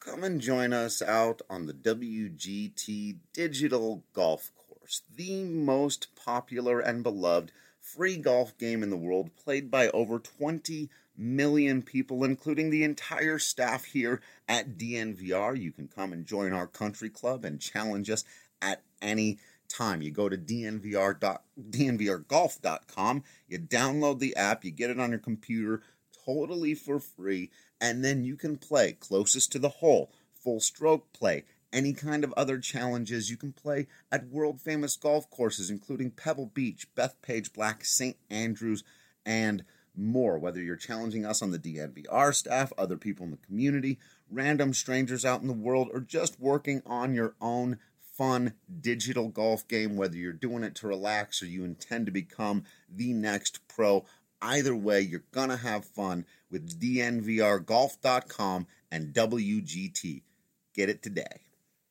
Come and join us out on the WGT Digital Golf Course, the most popular and beloved free golf game in the world, played by over 20 million people, including the entire staff here at DNVR. You can come and join our country club and challenge us at any time. You go to dnvrgolf.com, you download the app, you get it on your computer totally for free, and then you can play closest to the hole, full stroke play, any kind of other challenges. You can play at world-famous golf courses, including Pebble Beach, Bethpage Black, St. Andrews, and more. Whether you're challenging us on the DNVR staff, other people in the community, random strangers out in the world, or just working on your own fun digital golf game, whether you're doing it to relax or you intend to become the next pro, either way, you're going to have fun with DNVRgolf.com and WGT. Get it today.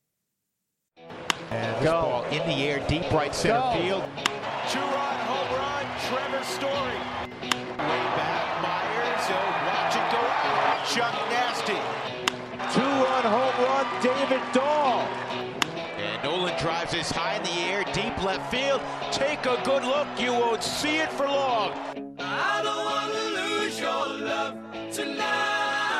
And this ball in the air, deep right center field. Two-run home run, Trevor Story. Way back, Myers, watch it go out. Chuck Nasty. Two-run home run, David Dahl. And Nolan drives this high in the air, deep left field. Take a good look, you won't see it for long. I don't want to lose your love tonight.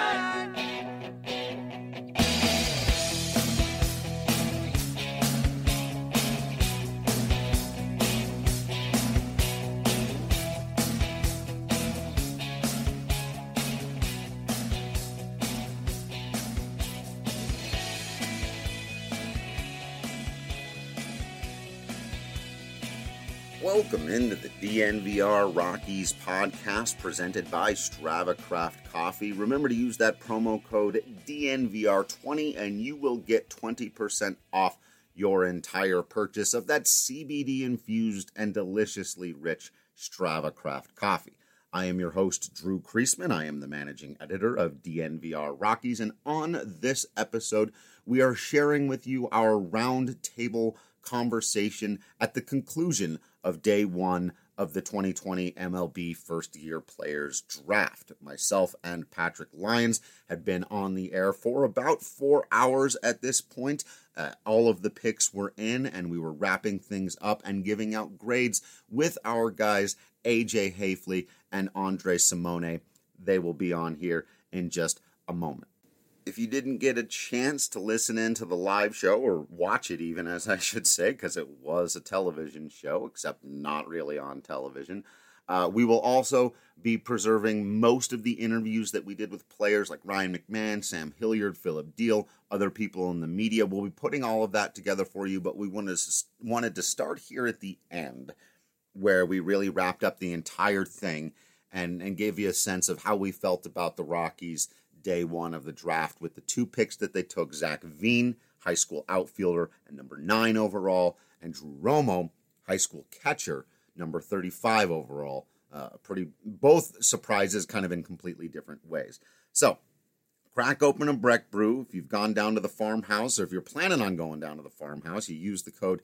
Welcome into the DNVR Rockies podcast presented by Strava Craft Coffee. Remember to use that promo code DNVR20 and you will get 20% off your entire purchase of that CBD infused and deliciously rich Strava Craft Coffee. I am your host, Drew Kreisman. I am the managing editor of DNVR Rockies, and on this episode, we are sharing with you our roundtable conversation at the conclusion of day one of the 2020 MLB first-year players draft. Myself and Patrick Lyons had been on the air for about 4 hours at this point. All of the picks were in, and we were wrapping things up and giving out grades with our guys AJ Hafley and Andre Simone. They will be on here in just a moment. If you didn't get a chance to listen in to the live show, or watch it even, as I should say, because it was a television show, except not really on television, we will also be preserving most of the interviews that we did with players like Ryan McMahon, Sam Hilliard, Philip Deal, other people in the media. We'll be putting all of that together for you, but we wanted to start here at the end, where we really wrapped up the entire thing and gave you a sense of how we felt about the Rockies' day one of the draft with the two picks that they took: Zach Veen, high school outfielder and number 9 overall, and Drew Romo, high school catcher, number 35 overall. Both surprises kind of in completely different ways. So crack open a Breck Brew. If you've gone down to the farmhouse, or if you're planning on going down to the farmhouse, you use the code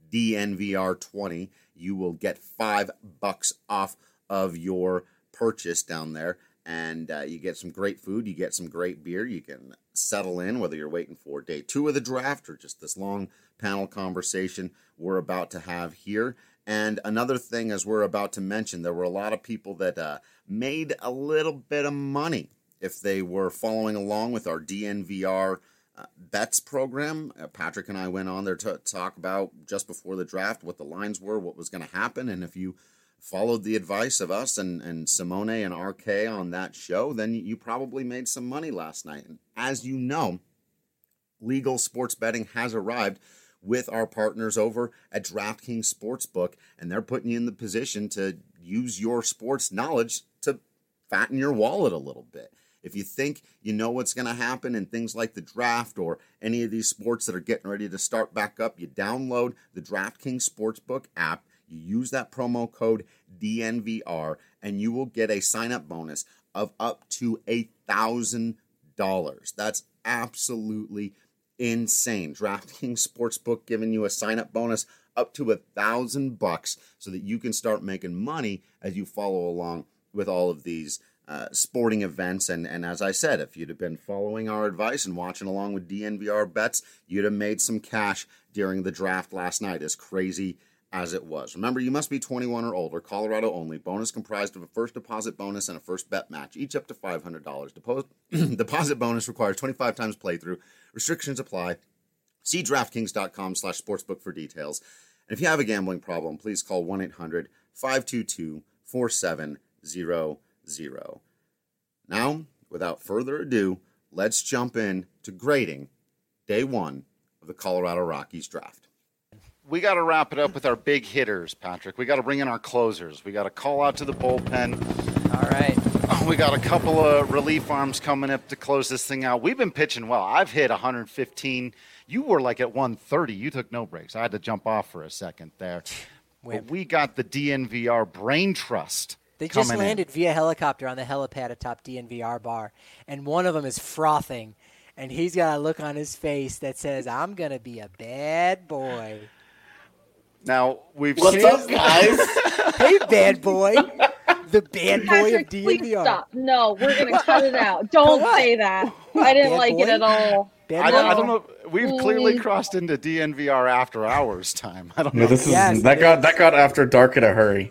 DNVR20. You will get $5 off of your purchase down there. And you get some great food, you get some great beer, you can settle in, whether you're waiting for day 2 of the draft or just this long panel conversation we're about to have here. And another thing, as we're about to mention, there were a lot of people that made a little bit of money if they were following along with our DNVR bets program. Patrick and I went on there to talk about, just before the draft, what the lines were, what was going to happen, and if you followed the advice of us and Simone and RK on that show, then you probably made some money last night. And as you know, legal sports betting has arrived with our partners over at DraftKings Sportsbook, and they're putting you in the position to use your sports knowledge to fatten your wallet a little bit. If you think you know what's going to happen in things like the draft or any of these sports that are getting ready to start back up, you download the DraftKings Sportsbook app. You use that promo code DNVR, and you will get a sign-up bonus of up to $1,000. That's absolutely insane. DraftKings Sportsbook giving you a sign-up bonus up to $1,000 so that you can start making money as you follow along with all of these sporting events. And as I said, if you'd have been following our advice and watching along with DNVR bets, you'd have made some cash during the draft last night, as crazy as it was. Remember, you must be 21 or older, Colorado only. Bonus comprised of a first deposit bonus and a first bet match, each up to $500. Deposit bonus requires 25 times playthrough. Restrictions apply. See DraftKings.com/sportsbook for details. And if you have a gambling problem, please call 1-800-522-4700. Now, without further ado, let's jump in to grading day one of the Colorado Rockies draft. We got to wrap it up with our big hitters, Patrick. We got to bring in our closers. We got to call out to the bullpen. All right. We got a couple of relief arms coming up to close this thing out. We've been pitching well. I've hit 115. You were like at 130. You took no breaks. I had to jump off for a second there. But we got the DNVR Brain Trust. They just landed via helicopter on the helipad atop DNVR bar, and one of them is frothing, and he's got a look on his face that says, I'm going to be a bad boy. Now, What's up, guys? Hey, bad boy. The bad boy Patrick, of DNVR. please stop. No, we're going to cut it out. Don't say that. I didn't Bad like boy? it at all. I don't know. We've clearly crossed into DNVR after hours time. I don't know. No, that got after dark in a hurry.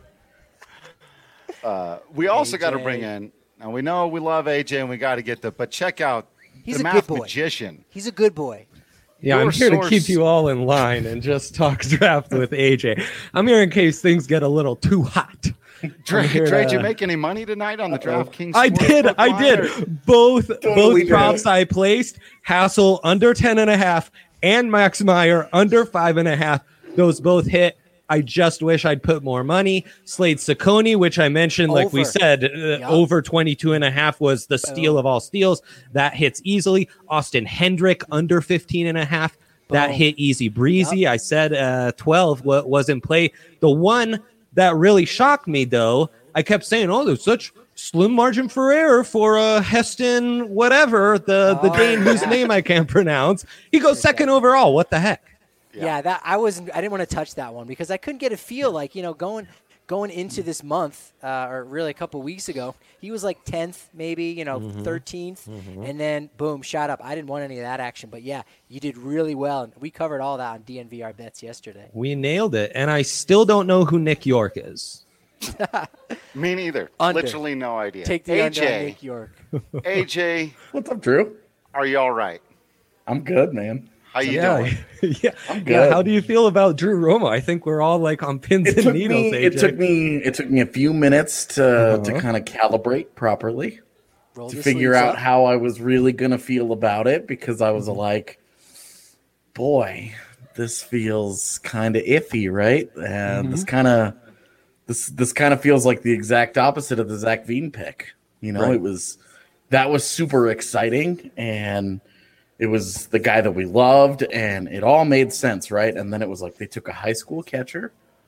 We also got to bring in, and we know we love AJ and we got to get but check out He's the a math good boy. magician. He's a good boy. Yeah, I'm here to keep you all in line and just talk draft with AJ. I'm here in case things get a little too hot. Dre, did you make any money tonight on the DraftKings? I did. Both props I placed, Hassel under 10.5 and Max Meyer under 5.5. Those both hit. I just wish I'd put more money. Slade Ciccone, which I mentioned, like we said, over 22.5 was the steal of all steals. That hits easily. Austin Hendrick under 15.5. That hit easy breezy. I said 12 was in play. The one that really shocked me, though, I kept saying, oh, there's such slim margin for error for Heston whatever, the Dane whose name I can't pronounce. He goes second overall. What the heck? Yeah, that I didn't want to touch that one because I couldn't get a feel like, going into this month or really a couple weeks ago, he was like 10th, maybe, 13th, and then boom, shot up. I didn't want any of that action, but yeah, you did really well. And we covered all that on DNVR bets yesterday. We nailed it, and I still don't know who Nick York is. Me neither. Under. Literally no idea. Take the under on Nick York. AJ. What's up, Drew? Are you all right? I'm good, man. How you doing? Yeah, I'm good. Yeah, how do you feel about Drew Romo? I think we're all like on pins and needles. It took me a few minutes to kind of calibrate properly, to figure out how I was really gonna feel about it, because I was like, boy, this feels kind of iffy, right? And this kind of feels like the exact opposite of the Zach Veen pick. Right. That was super exciting, and it was the guy that we loved, and it all made sense, right? And then it was like they took a high school catcher,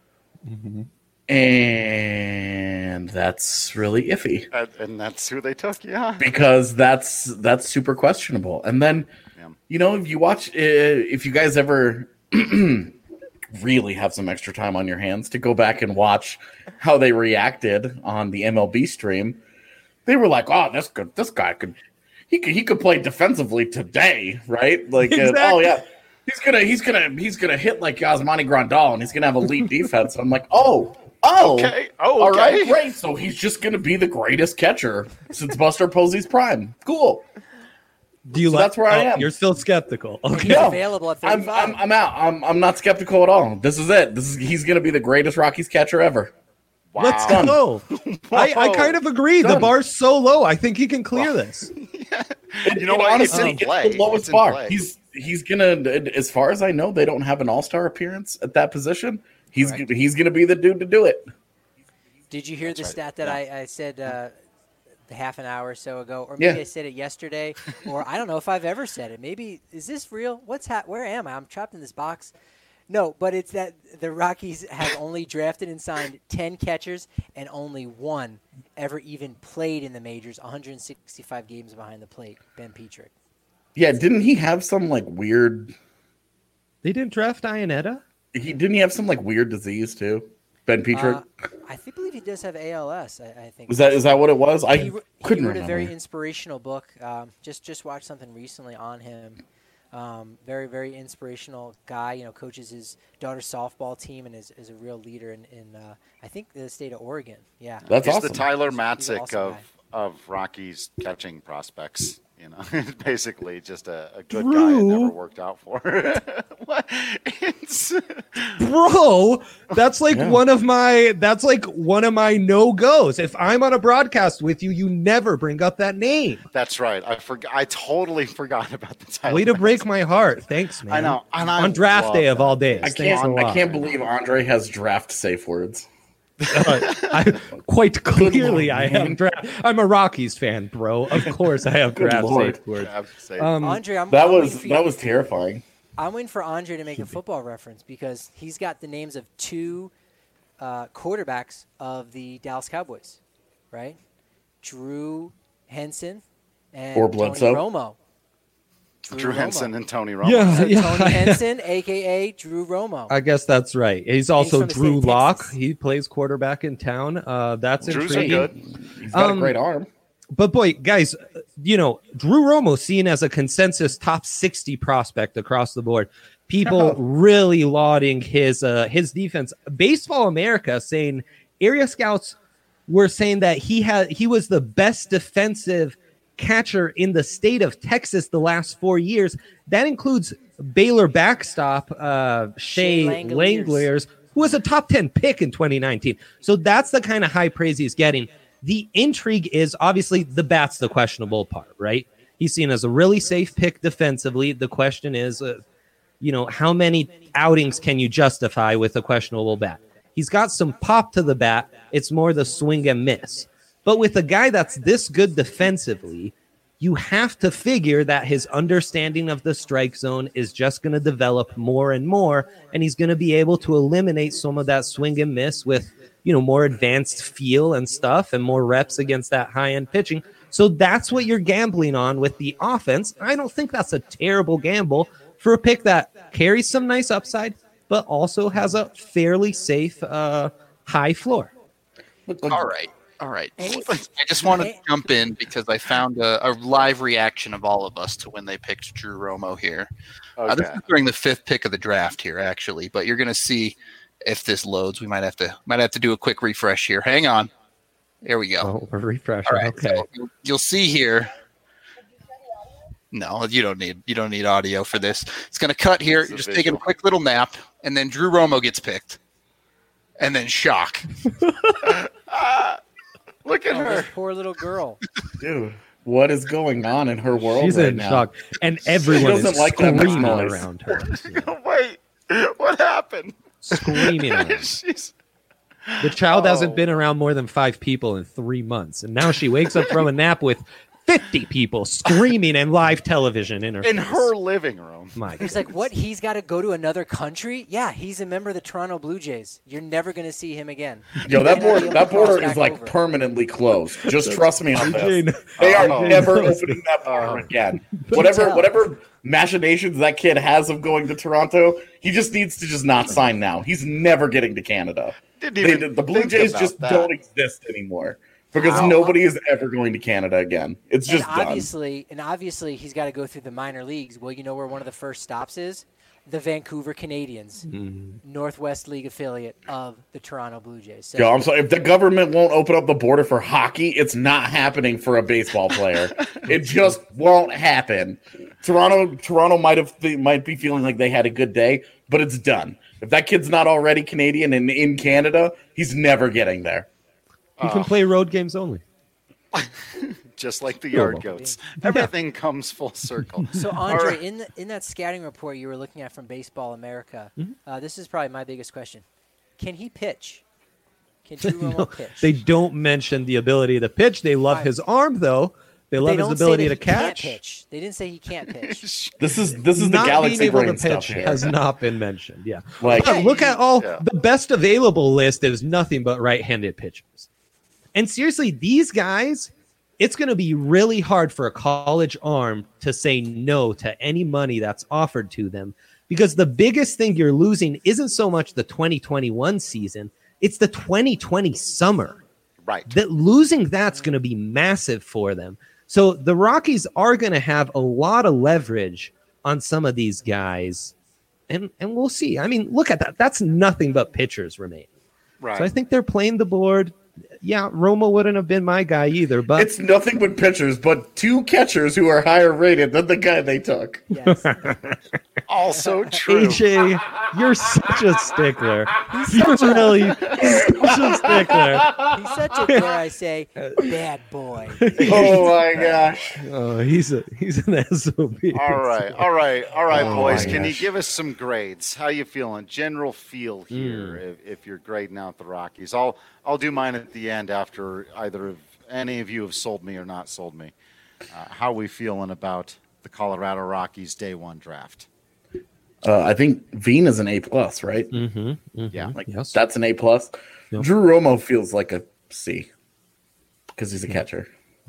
and that's really iffy. And that's who they took, yeah. Because that's super questionable. And then, if you watch, if you guys ever really have some extra time on your hands to go back and watch how they reacted on the MLB stream, they were like, "Oh, this guy could." He could play defensively today, right? Like, exactly. He's gonna hit like Yasmani Grandal, and he's gonna have elite defense. I'm like, okay, all right, great. So he's just gonna be the greatest catcher since Buster Posey's prime. Cool. That's where I am. You're still skeptical. Okay. No, available at 35. I'm out. I'm not skeptical at all. This is it. He's gonna be the greatest Rockies catcher ever. Wow. Let's go. I kind of agree. The bar's so low. I think he can clear this. You know what? Honestly, it's in play. the lowest bar. He's gonna, as far as I know, they don't have an all-star appearance at that position. He's gonna be the dude to do it. Did you hear the stat that I said half an hour or so ago, or maybe I said it yesterday, or I don't know if I've ever said it. Maybe is this real? Where am I? I'm trapped in this box. No, but it's that the Rockies have only drafted and signed 10 catchers, and only one ever even played in the majors, 165 games behind the plate, Ben Petrick. Yeah, didn't he have some like weird... They didn't draft Iannetta? Didn't he have some like weird disease too? Ben Petrick? I believe he does have ALS. I think. Is that what it was? He couldn't wrote remember. a very inspirational book. Just watched something recently on him. Very, very inspirational guy. You know, coaches his daughter's softball team and is a real leader in I think the state of Oregon. Yeah, That's He's awesome. the Tyler Matzik awesome of Rockies catching prospects. You know, basically just a good Drew. guy it never worked out for. What? Bro, that's like one of my no-goes. If I'm on a broadcast with you, you never bring up that name. That's right. I totally forgot about the Tyler. Way to break my heart. Thanks, man. I know. And I on draft love day of that. all days. I can't believe Andre has draft safe words. Quite clearly, I have draft. I'm a Rockies fan, bro. Of course, I have draft Lord. safe words. Andre, that was terrifying. I'm waiting for Andre to make a football reference because he's got the names of two quarterbacks of the Dallas Cowboys, right? Drew Henson and Or Bledsoe. Tony Romo. Drew Henson and Tony Romo. Yeah, So yeah. Tony Henson, a.k.a. Drew Romo. I guess that's right. He's also from the Drew state of Lock. Texas. He plays quarterback in town. That's Drew's are intriguing. good. He's got a great arm. But boy, guys, you know, Drew Romo seen as a consensus top 60 prospect across the board. People really lauding his defense. Baseball America saying area scouts were saying that he was the best defensive catcher in the state of Texas the last 4 years. That includes Baylor backstop Shea Langeliers, who was a top 10 pick in 2019. So that's the kind of high praise he's getting. The intrigue is obviously the bat's the questionable part, right? He's seen as a really safe pick defensively. The question is, how many outings can you justify with a questionable bat? He's got some pop to the bat. It's more the swing and miss. But with a guy that's this good defensively, you have to figure that his understanding of the strike zone is just going to develop more and more, and he's going to be able to eliminate some of that swing and miss with, more advanced feel and stuff and more reps against that high-end pitching. So that's what you're gambling on with the offense. I don't think that's a terrible gamble for a pick that carries some nice upside, but also has a fairly safe high floor. All right. I just want to jump in because I found a live reaction of all of us to when they picked Drew Romo here. Okay. This is during the 5th pick of the draft here, actually, but you're going to see if this loads. We might have to do a quick refresh here. Hang on. There we go. Oh, a refresher. All right, Okay. so you'll see here. No, you don't need audio for this. It's going to cut here. You're just taking a quick little nap, and then Drew Romo gets picked, and then shock. Look at her. This poor little girl. Dude, what is going on in her world She's right in now? shock, and everyone doesn't is like that much screaming noise. around her. Wait, what happened? Screaming at her. The child hasn't been around more than 5 people in 3 months, and now she wakes up from a nap with 50 people screaming and live television in her her living room. My He's like, what? He's got to go to another country? Yeah, he's a member of the Toronto Blue Jays. You're never going to see him again. Yo, that You're not gonna be able to border cross is back like over. permanently closed. Just trust me on this. Eugene. They are Oh. never opening that border again. Whatever machinations that kid has of going to Toronto, he just needs to just not sign now. He's never getting to Canada. The Blue think Jays about just that. don't exist anymore because nobody is ever going to Canada again. It's just and done. obviously, he's got to go through the minor leagues. Well, you know where one of the first stops is? The Vancouver Canadians, Northwest League affiliate of the Toronto Blue Jays. So, Yo, I'm sorry. If the government won't open up the border for hockey, it's not happening for a baseball player. It just won't happen. Toronto might be feeling like they had a good day, but it's done. If that kid's not already Canadian and in Canada, he's never getting there. You can play road games only. Just like the yard goats. Everything comes full circle. So Andre, in that scouting report you were looking at from Baseball America, this is probably my biggest question: can he pitch? Can Drew Romo pitch? They don't mention the ability to pitch. They love his arm, though. They love his ability to catch. Pitch. They didn't say he can't pitch. This is the Not Galaxy being able brain to stuff pitch here. has not been mentioned. Yeah, Like- But look at all Yeah. the best available list is nothing but right-handed pitchers. And seriously, these guys, it's going to be really hard for a college arm to say no to any money that's offered to them, because the biggest thing you're losing isn't so much the 2021 season it's the 2020 summer. Right. That losing that's going to be massive for them. So the Rockies are going to have a lot of leverage on some of these guys, and we'll see. I mean, look at that. That's nothing but pitchers remaining. Right. So I think they're playing the board. Yeah, Romo wouldn't have been my guy either, but it's nothing but pitchers, but 2 catchers who are higher rated than the guy they took. Yes. Also true. AJ, you're such a stickler. You're really such a stickler. He's such a, dare I say, bad boy. Oh my gosh. Oh, he's an SOB. All right, Oh boys. my Can you gosh. give us some grades? How you feeling? General feel here, if you're grading out the Rockies. I'll do mine at the end after any of you have sold me or not sold me. How are we feeling about the Colorado Rockies day 1 draft? I think Veen is an A+, right? Yeah. Like Yes. that's an A+. Yep. Drew Romo feels like a C because he's a catcher.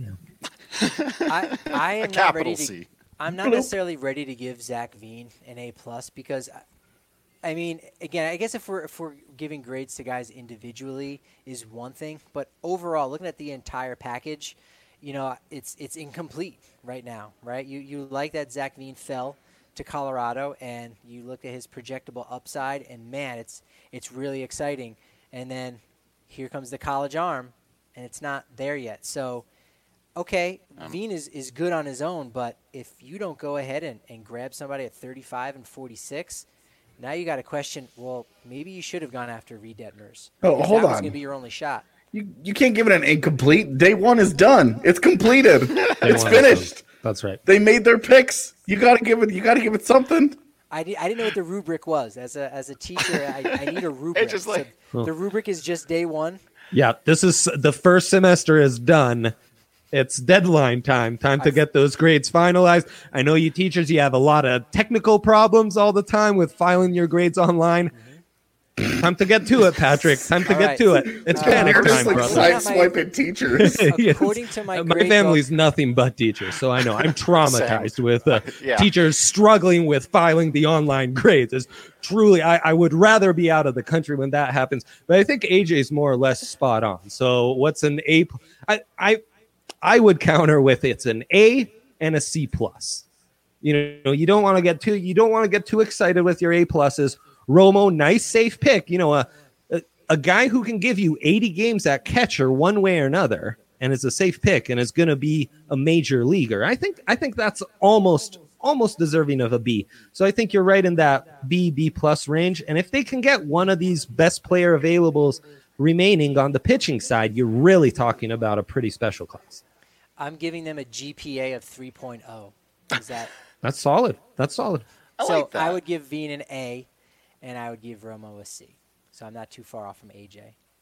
I am not Capital ready to. C. I'm not necessarily ready to give Zach Veen an A+ because, I mean, again, I guess if we're giving grades to guys individually is one thing, but overall, looking at the entire package, you know, it's incomplete right now, right? You like that Zach Veen fell to Colorado, and you look at his projectable upside, and man, it's really exciting. And then here comes the college arm, and it's not there yet. So, okay, Veen is good on his own, but if you don't go ahead and grab somebody at 35 and 46, now you got to question, well, maybe you should have gone after Reed Detmers. Oh, Because hold that was on. going to be your only shot. You can't give it an incomplete. Day 1 is done. It's completed. It's one is finished. That's right. They made their picks. You gotta give it something. I didn't know what the rubric was. As a teacher, I need a rubric. It's just like- So the rubric is just day 1. Yeah, this is the first semester is done. It's deadline time to get those grades finalized. I know you teachers, you have a lot of technical problems all the time with filing your grades online. Time to get to it, Patrick. Time to get to it. It's panic They're time, just like brother. side-swiping teachers. Yes. According to my My grade family's book, nothing but teachers, so I know I'm traumatized with Yeah. teachers struggling with filing the online grades. It's truly, I would rather be out of the country when that happens. But I think AJ's more or less spot on. So what's an A? I would counter with it's an A and a C+. You know, you don't want to get too excited with your A pluses. Romo, nice safe pick. You know, a guy who can give you 80 games at catcher one way or another, and is a safe pick, and is going to be a major leaguer. I think that's almost deserving of a B. So I think you're right in that B+ range. And if they can get one of these best player availables remaining on the pitching side, you're really talking about a pretty special class. I'm giving them a GPA of 3.0. Is that That's solid. so? I would give Veen an A, and I would give Romo a C. So I'm not too far off from AJ.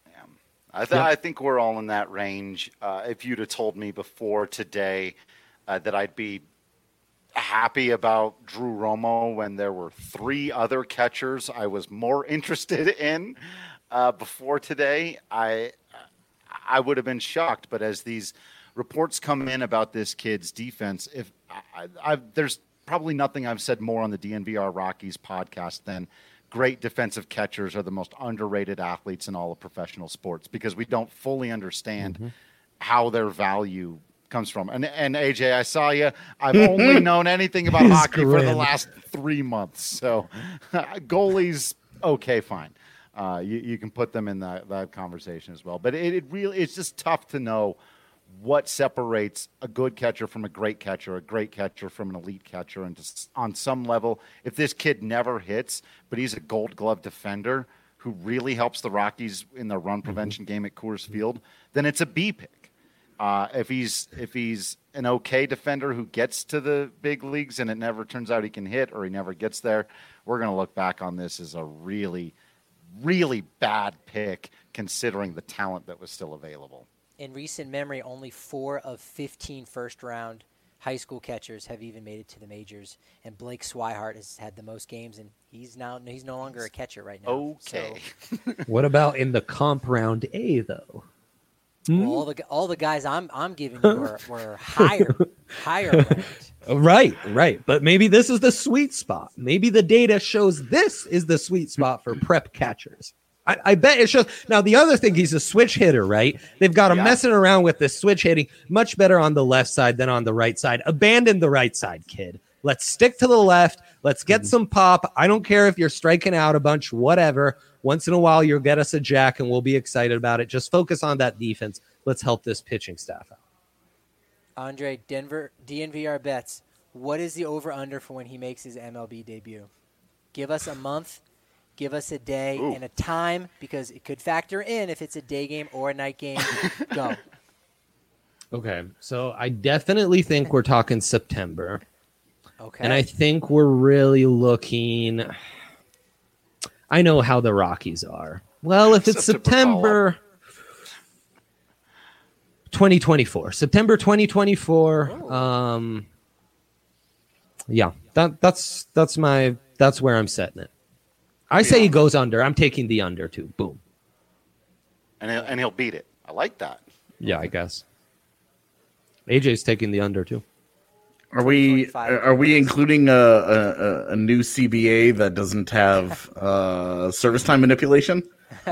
I think we're all in that range. If you'd have told me before today that I'd be happy about Drew Romo when there were 3 other catchers I was more interested in before today, I would have been shocked. But as these reports come in about this kid's defense, there's probably nothing I've said more on the DNVR Rockies podcast than great defensive catchers are the most underrated athletes in all of professional sports, because we don't fully understand how their value comes from. And AJ, I saw you. I've only known anything about hockey for the last 3 months. So goalies, okay, fine. You can put them in that conversation as well. But it's just tough to know what separates a good catcher from a great catcher from an elite catcher. And just on some level, if this kid never hits, but he's a Gold Glove defender who really helps the Rockies in their run prevention game at Coors Field, then it's a B pick. If he's an okay defender who gets to the big leagues and it never turns out he can hit, or he never gets there, we're going to look back on this as a really, really bad pick considering the talent that was still available. In recent memory, only 4 of 15 first-round high school catchers have even made it to the majors, and Blake Swihart has had the most games, and he's no longer a catcher right now. Okay. So, What about in the comp round A though? well, all the guys I'm giving you were higher ranked. Right. But maybe this is the sweet spot. Maybe the data shows this is the sweet spot for prep catchers. I bet it's just now. The other thing, he's a switch hitter, right? They've got him messing around with this switch hitting much better on the left side than on the right side. Abandon the right side, kid. Let's stick to the left. Let's get some pop. I don't care if you're striking out a bunch, whatever. Once in a while, you'll get us a jack, and we'll be excited about it. Just focus on that defense. Let's help this pitching staff out. Andre, Denver, DNVR bets. What is the over-under for when he makes his MLB debut? Give us a month. Give us a day and a time, because it could factor in if it's a day game or a night game. Go. Okay, so I definitely think we're talking September. Okay. And I think we're really looking... I know how the Rockies are. Well, if it's September 2024. September 2024. Yeah, that's where I'm setting it. I say he goes under. I'm taking the under too. Boom. And he'll beat it. I like that. Yeah, I guess. AJ's taking the under too. Are we including a new CBA that doesn't have service time manipulation?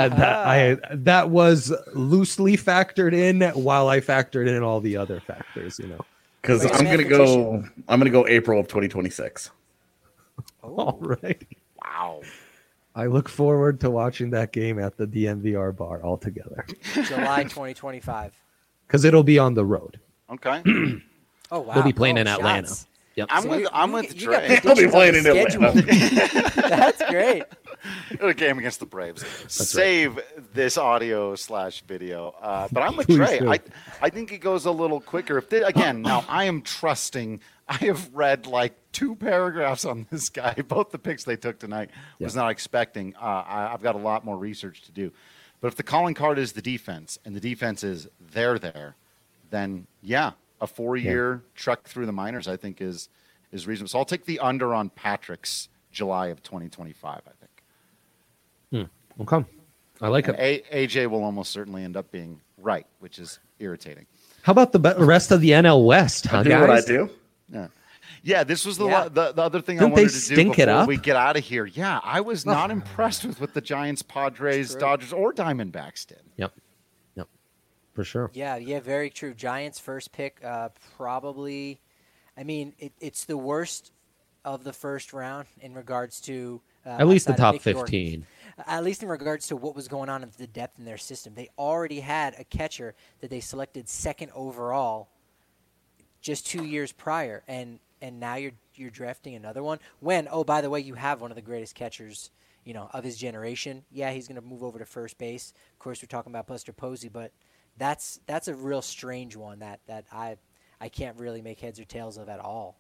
That was loosely factored in while I factored in all the other factors, Because I'm gonna go April of 2026. All right. Wow. I look forward to watching that game at the DNVR bar all together. July 2025. Because it'll be on the road. Okay. Oh wow. We'll be playing in Atlanta. Shots. Yep. I'm with Trey. He'll be playing in Atlanta. That's great. A game against the Braves. Save this audio / video. But I'm with Trey. I think it goes a little quicker. Now I am trusting. I have read like 2 paragraphs on this guy. Both the picks they took tonight was not expecting. I've got a lot more research to do. But if the calling card is the defense, and the defense is there, then a 4-year trek through the minors, I think, is reasonable. So I'll take the under on Patrick's July of 2025, I think. Okay. I like it. AJ will almost certainly end up being right, which is irritating. How about the rest of the NL West, huh, I do guys? what I do. Yeah, this was the other thing Didn't I wanted they to do stink it before up? we get out of here. Yeah, I was not impressed with the Giants, Padres, Dodgers, or Diamondbacks did. Yep. For sure. Yeah, very true. Giants first pick, probably. I mean, it's the worst of the first round in regards to at least the top Mickey 15. At least in regards to what was going on in the depth in their system. They already had a catcher that they selected second overall just 2 years prior, and now you're drafting another one. When, by the way, you have one of the greatest catchers, of his generation. Yeah, he's going to move over to first base. Of course, we're talking about Buster Posey, but that's a real strange one that I can't really make heads or tails of at all.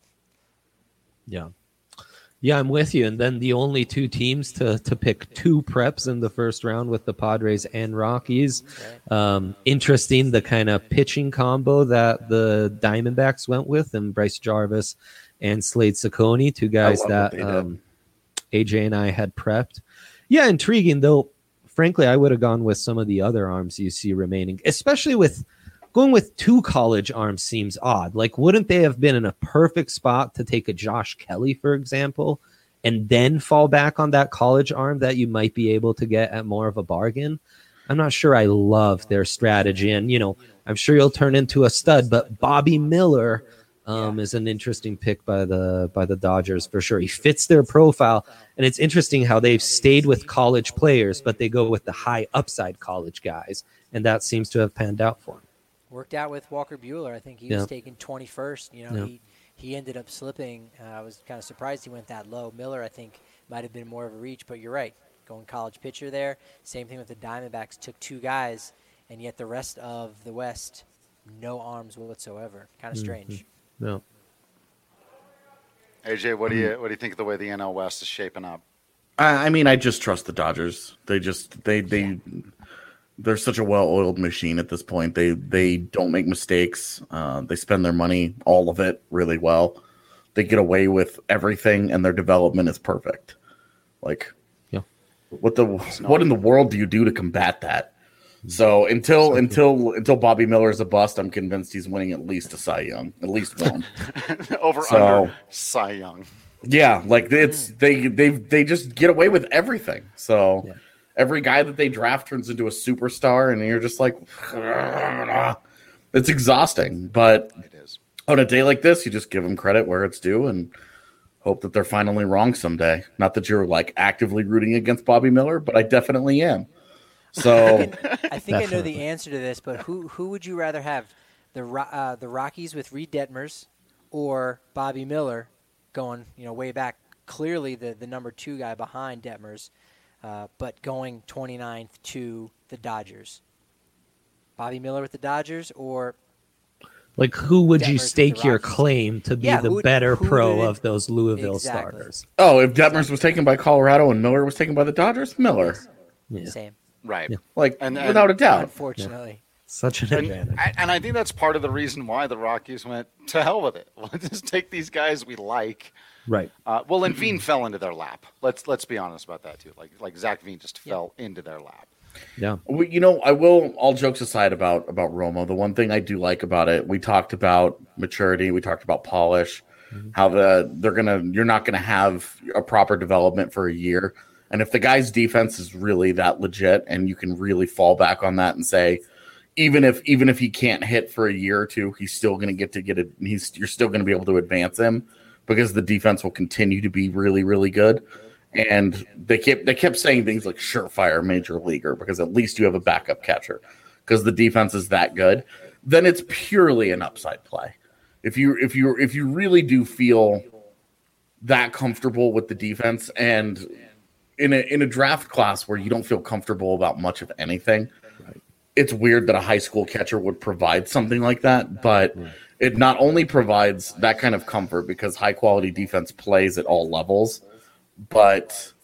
Yeah, I'm with you. And then the only 2 teams to pick 2 preps in the first round with the Padres and Rockies. Okay. Interesting, the kind of pitching combo that the Diamondbacks went with, and Bryce Jarvis and Slade Ciccone, 2 guys that AJ and I had prepped. Yeah, intriguing, though. Frankly, I would have gone with some of the other arms you see remaining, especially with going with 2 college arms seems odd. Like, wouldn't they have been in a perfect spot to take a Josh Kelly, for example, and then fall back on that college arm that you might be able to get at more of a bargain? I'm not sure I love their strategy. And, I'm sure you'll turn into a stud, but Bobby Miller is an interesting pick by the Dodgers for sure. He fits their profile, and it's interesting how they've stayed with college players, but they go with the high upside college guys, and that seems to have panned out for him. Worked out with Walker Buehler. I think he was taken 21st. He ended up slipping. I was kind of surprised he went that low. Miller, I think, might have been more of a reach, but you're right. Going college pitcher there. Same thing with the Diamondbacks. Took 2 guys, and yet the rest of the West, no arms whatsoever. Kind of strange. No. AJ, what do you think of the way the NL West is shaping up? I mean, I just trust the Dodgers. They're such a well-oiled machine at this point. They don't make mistakes. They spend their money, all of it, really well. They get away with everything, and their development is perfect. Like, what in the world do you do to combat that? So until Bobby Miller is a bust, I'm convinced he's winning at least a Cy Young, at least one. Under Cy Young. Yeah, like it's they just get away with everything. So Every guy that they draft turns into a superstar, and you're just like, it's exhausting. But it is. On a day like this, you just give them credit where it's due and hope that they're finally wrong someday. Not that you're like actively rooting against Bobby Miller, but I definitely am. So I think I know the answer to this, but who would you rather have, the Rockies with Reed Detmers or Bobby Miller going way back? Clearly the number 2 guy behind Detmers, but going 29th to the Dodgers. Bobby Miller with the Dodgers or like who would Detmers you stake your claim to be the better pro of those Louisville starters? Oh, if Detmers was taken by Colorado and Miller was taken by the Dodgers, Miller. Yeah. Same. Right. Yeah. Like, without a doubt. Unfortunately. Such an advantage. And I think that's part of the reason why the Rockies went, to hell with it. Let's just take these guys we like. Right. Well, and Veen fell into their lap. Let's be honest about that, too. Like Zach Veen just fell into their lap. Yeah. I will, all jokes aside about Romo, the one thing I do like about it, we talked about maturity, we talked about polish, how you're not going to have a proper development for a year. And if the guy's defense is really that legit and you can really fall back on that and say, even if he can't hit for a year or two, he's still going to you're still going to be able to advance him because the defense will continue to be really, really good. And they kept saying things like surefire major leaguer because at least you have a backup catcher because the defense is that good. Then it's purely an upside play. If you really do feel that comfortable with the defense and in a draft class where you don't feel comfortable about much of anything, it's weird that a high school catcher would provide something like that, but it not only provides that kind of comfort because high quality defense plays at all levels, but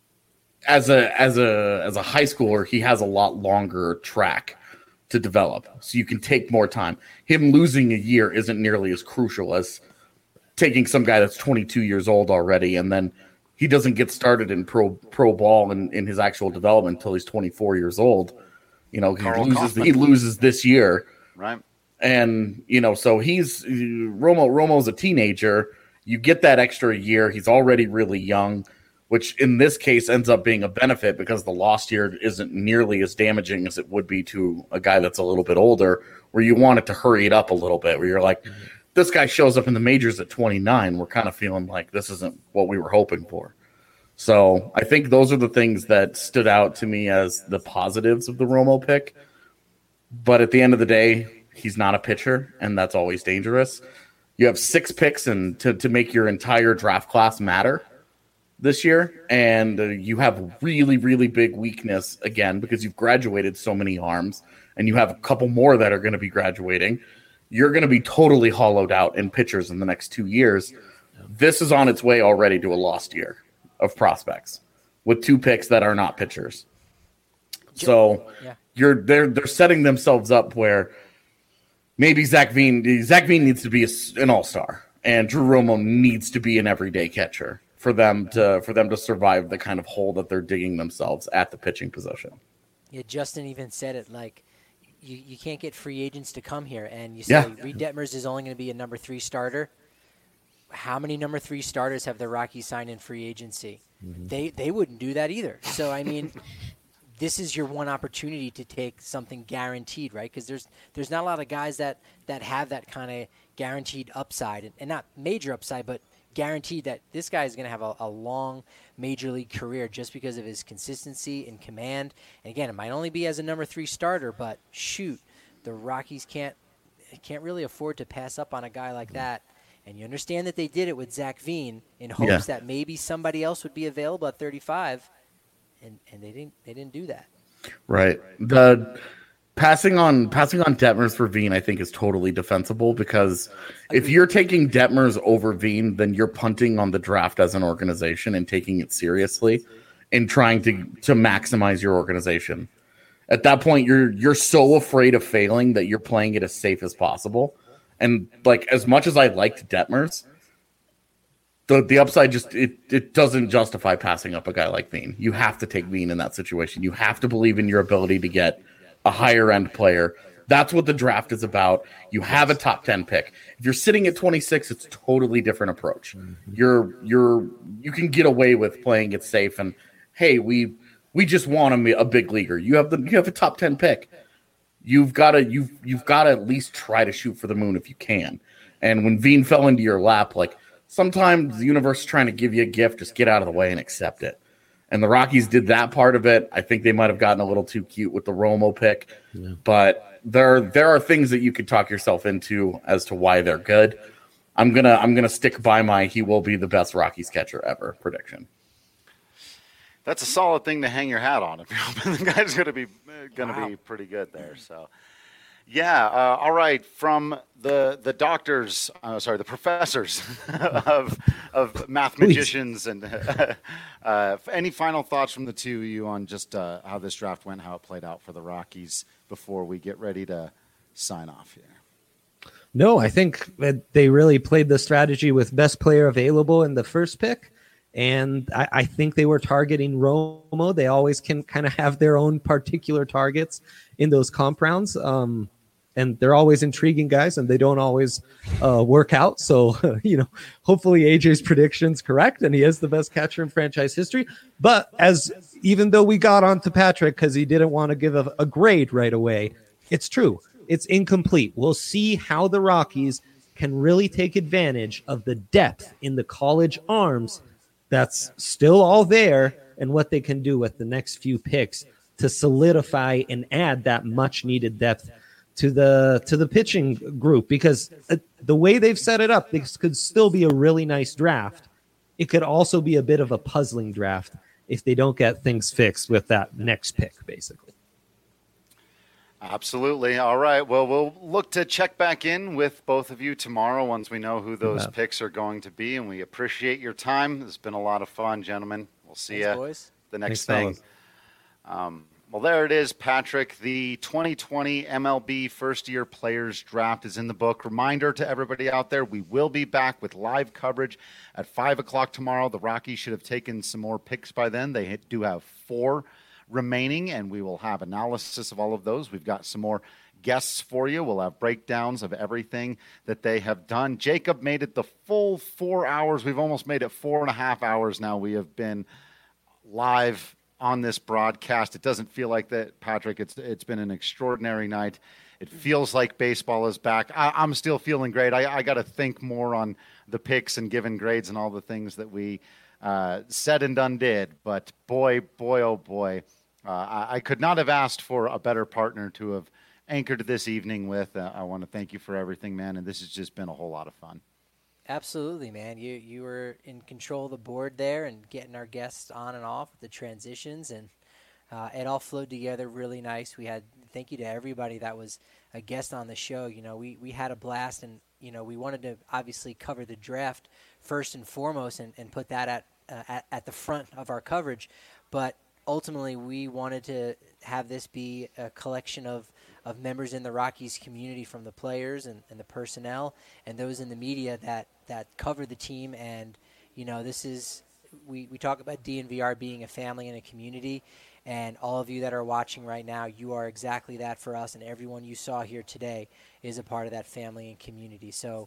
as a high schooler, he has a lot longer track to develop, so you can take more time. Him losing a year isn't nearly as crucial as taking some guy that's 22 years old already, and then he doesn't get started in pro ball in his actual development until he's 24 years old. He loses this year, right? And so he's Romo's a teenager. You get that extra year. He's already really young, which in this case ends up being a benefit because the lost year isn't nearly as damaging as it would be to a guy that's a little bit older, where you want it to hurry it up a little bit, where you're like, this guy shows up in the majors at 29. We're kind of feeling like this isn't what we were hoping for. So I think those are the things that stood out to me as the positives of the Romo pick. But at the end of the day, he's not a pitcher, and that's always dangerous. You have 6 picks and to make your entire draft class matter this year, and you have really, really big weakness again because you've graduated so many arms, and you have a couple more that are going to be graduating. You're going to be totally hollowed out in pitchers in the next 2 years. This is on its way already to a lost year of prospects with 2 picks that are not pitchers. So they're setting themselves up where maybe Zach Veen needs to be an all-star, and Drew Romo needs to be an everyday catcher for them to survive the kind of hole that they're digging themselves at the pitching position. Yeah, Justin even said it like you can't get free agents to come here, and you say Reed Detmers is only going to be a number 3 starter. How many number 3 starters have the Rockies signed in free agency? Mm-hmm. They wouldn't do that either. So I mean. This is your one opportunity to take something guaranteed, right? Because there's not a lot of guys that have that kind of guaranteed upside, and not major upside, but guaranteed that this guy is going to have a long major league career just because of his consistency and command. And again, it might only be as a number 3 starter, but shoot, the Rockies can't really afford to pass up on a guy like that. And you understand that they did it with Zach Veen in hopes that maybe somebody else would be available at 35. And they didn't do that. Right. The passing on Detmers for Veen, I think, is totally defensible because if you're taking Detmers over Veen, then you're punting on the draft as an organization and taking it seriously and trying to maximize your organization. At that point, you're so afraid of failing that you're playing it as safe as possible. And like as much as I liked Detmers, the upside just it doesn't justify passing up a guy like Veen. You have to take Veen in that situation. You have to believe in your ability to get a higher end player. That's what the draft is about. You have a top 10 pick. If you're sitting at 26, it's a totally different approach. You can get away with playing it safe and hey, we We just want him a big leaguer. You have a top 10 pick. You've got to at least try to shoot for the moon if you can. And when Veen fell into your lap, like sometimes the universe is trying to give you a gift, just get out of the way and accept it. And the Rockies did that part of it. I think they might have gotten a little too cute with the Romo pick, but there are things that you could talk yourself into as to why they're good. I'm gonna stick by my he will be the best Rockies catcher ever prediction. That's a solid thing to hang your hat on if you're hoping the guy's going to be pretty good there. So, yeah, all right. From the doctors, the professors of mathematicians, and any final thoughts from the two of you on just how this draft went, how it played out for the Rockies before we get ready to sign off here? No, I think that they really played the strategy with best player available in the first pick. And I think they were targeting Romo. They always can kind of have their own particular targets in those comp rounds. And they're always intriguing guys, and they don't always work out. So, hopefully AJ's prediction's correct, and he is the best catcher in franchise history. But even though we got onto Patrick because he didn't want to give a grade right away, it's true. It's incomplete. We'll see how the Rockies can really take advantage of the depth in the college arms that's still all there, and what they can do with the next few picks to solidify and add that much needed depth to the pitching group. Because the way they've set it up, this could still be a really nice draft. It could also be a bit of a puzzling draft if they don't get things fixed with that next pick, basically. Absolutely. All right. Well, we'll look to check back in with both of you tomorrow once we know who those picks are going to be. And we appreciate your time. It's been a lot of fun, gentlemen. We'll see you the next thing. Well, there it is, Patrick. The 2020 MLB first-year players draft is in the book. Reminder to everybody out there, we will be back with live coverage at 5 o'clock tomorrow. The Rockies should have taken some more picks by then. They do have 4 remaining, and we will have analysis of all of those. We've got some more guests for you. We'll have breakdowns of everything that they have done. Jacob made it the full 4 hours. We've almost made it 4.5 hours now. We have been live on this broadcast. It doesn't feel like that, Patrick. It's been an extraordinary night. It feels like baseball is back. I'm still feeling great. I got to think more on the picks and giving grades and all the things that we said and done did. But boy, oh boy, I could not have asked for a better partner to have anchored this evening with. I want to thank you for everything, man, and this has just been a whole lot of fun. Absolutely, man. You were in control of the board there and getting our guests on and off with the transitions, and it all flowed together really nice. Thank you to everybody that was a guest on the show. We had a blast, and we wanted to obviously cover the draft first and foremost and put that at the front of our coverage, but ultimately we wanted to have this be a collection of members in the Rockies community, from the players and the personnel and those in the media that cover the team. And this is we talk about DNVR being a family and a community, and all of you that are watching right now, you are exactly that for us, and everyone you saw here today is a part of that family and community. So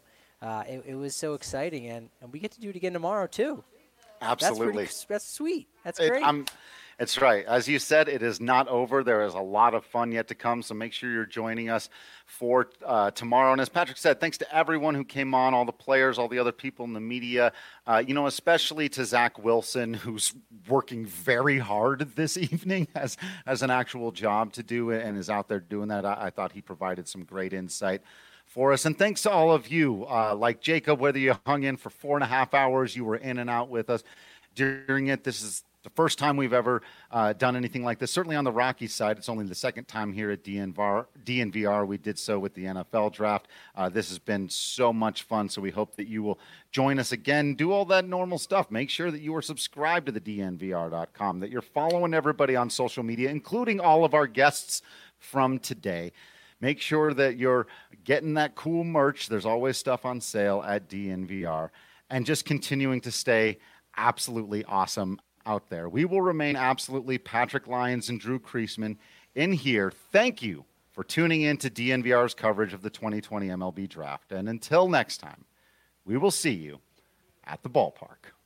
it was so exciting, and we get to do it again tomorrow too. Absolutely. That's sweet. That's great. It's right. As you said, it is not over. There is a lot of fun yet to come, so make sure you're joining us for tomorrow. And as Patrick said, thanks to everyone who came on, all the players, all the other people in the media, especially to Zach Wilson, who's working very hard this evening, has an actual job to do and is out there doing that. I thought he provided some great insight for us. And thanks to all of you, like Jacob, whether you hung in for 4.5 hours, you were in and out with us during it. This is the first time we've ever done anything like this. Certainly on the Rockies side, it's only the second time here at DNVR. We did so with the NFL draft. This has been so much fun, so we hope that you will join us again. Do all that normal stuff. Make sure that you are subscribed to the DNVR.com, that you're following everybody on social media, including all of our guests from today. Make sure that you're getting that cool merch. There's always stuff on sale at DNVR. And just continuing to stay absolutely awesome out there. We will remain absolutely Patrick Lyons and Drew Creasman in here. Thank you for tuning in to DNVR's coverage of the 2020 MLB Draft. And until next time, we will see you at the ballpark.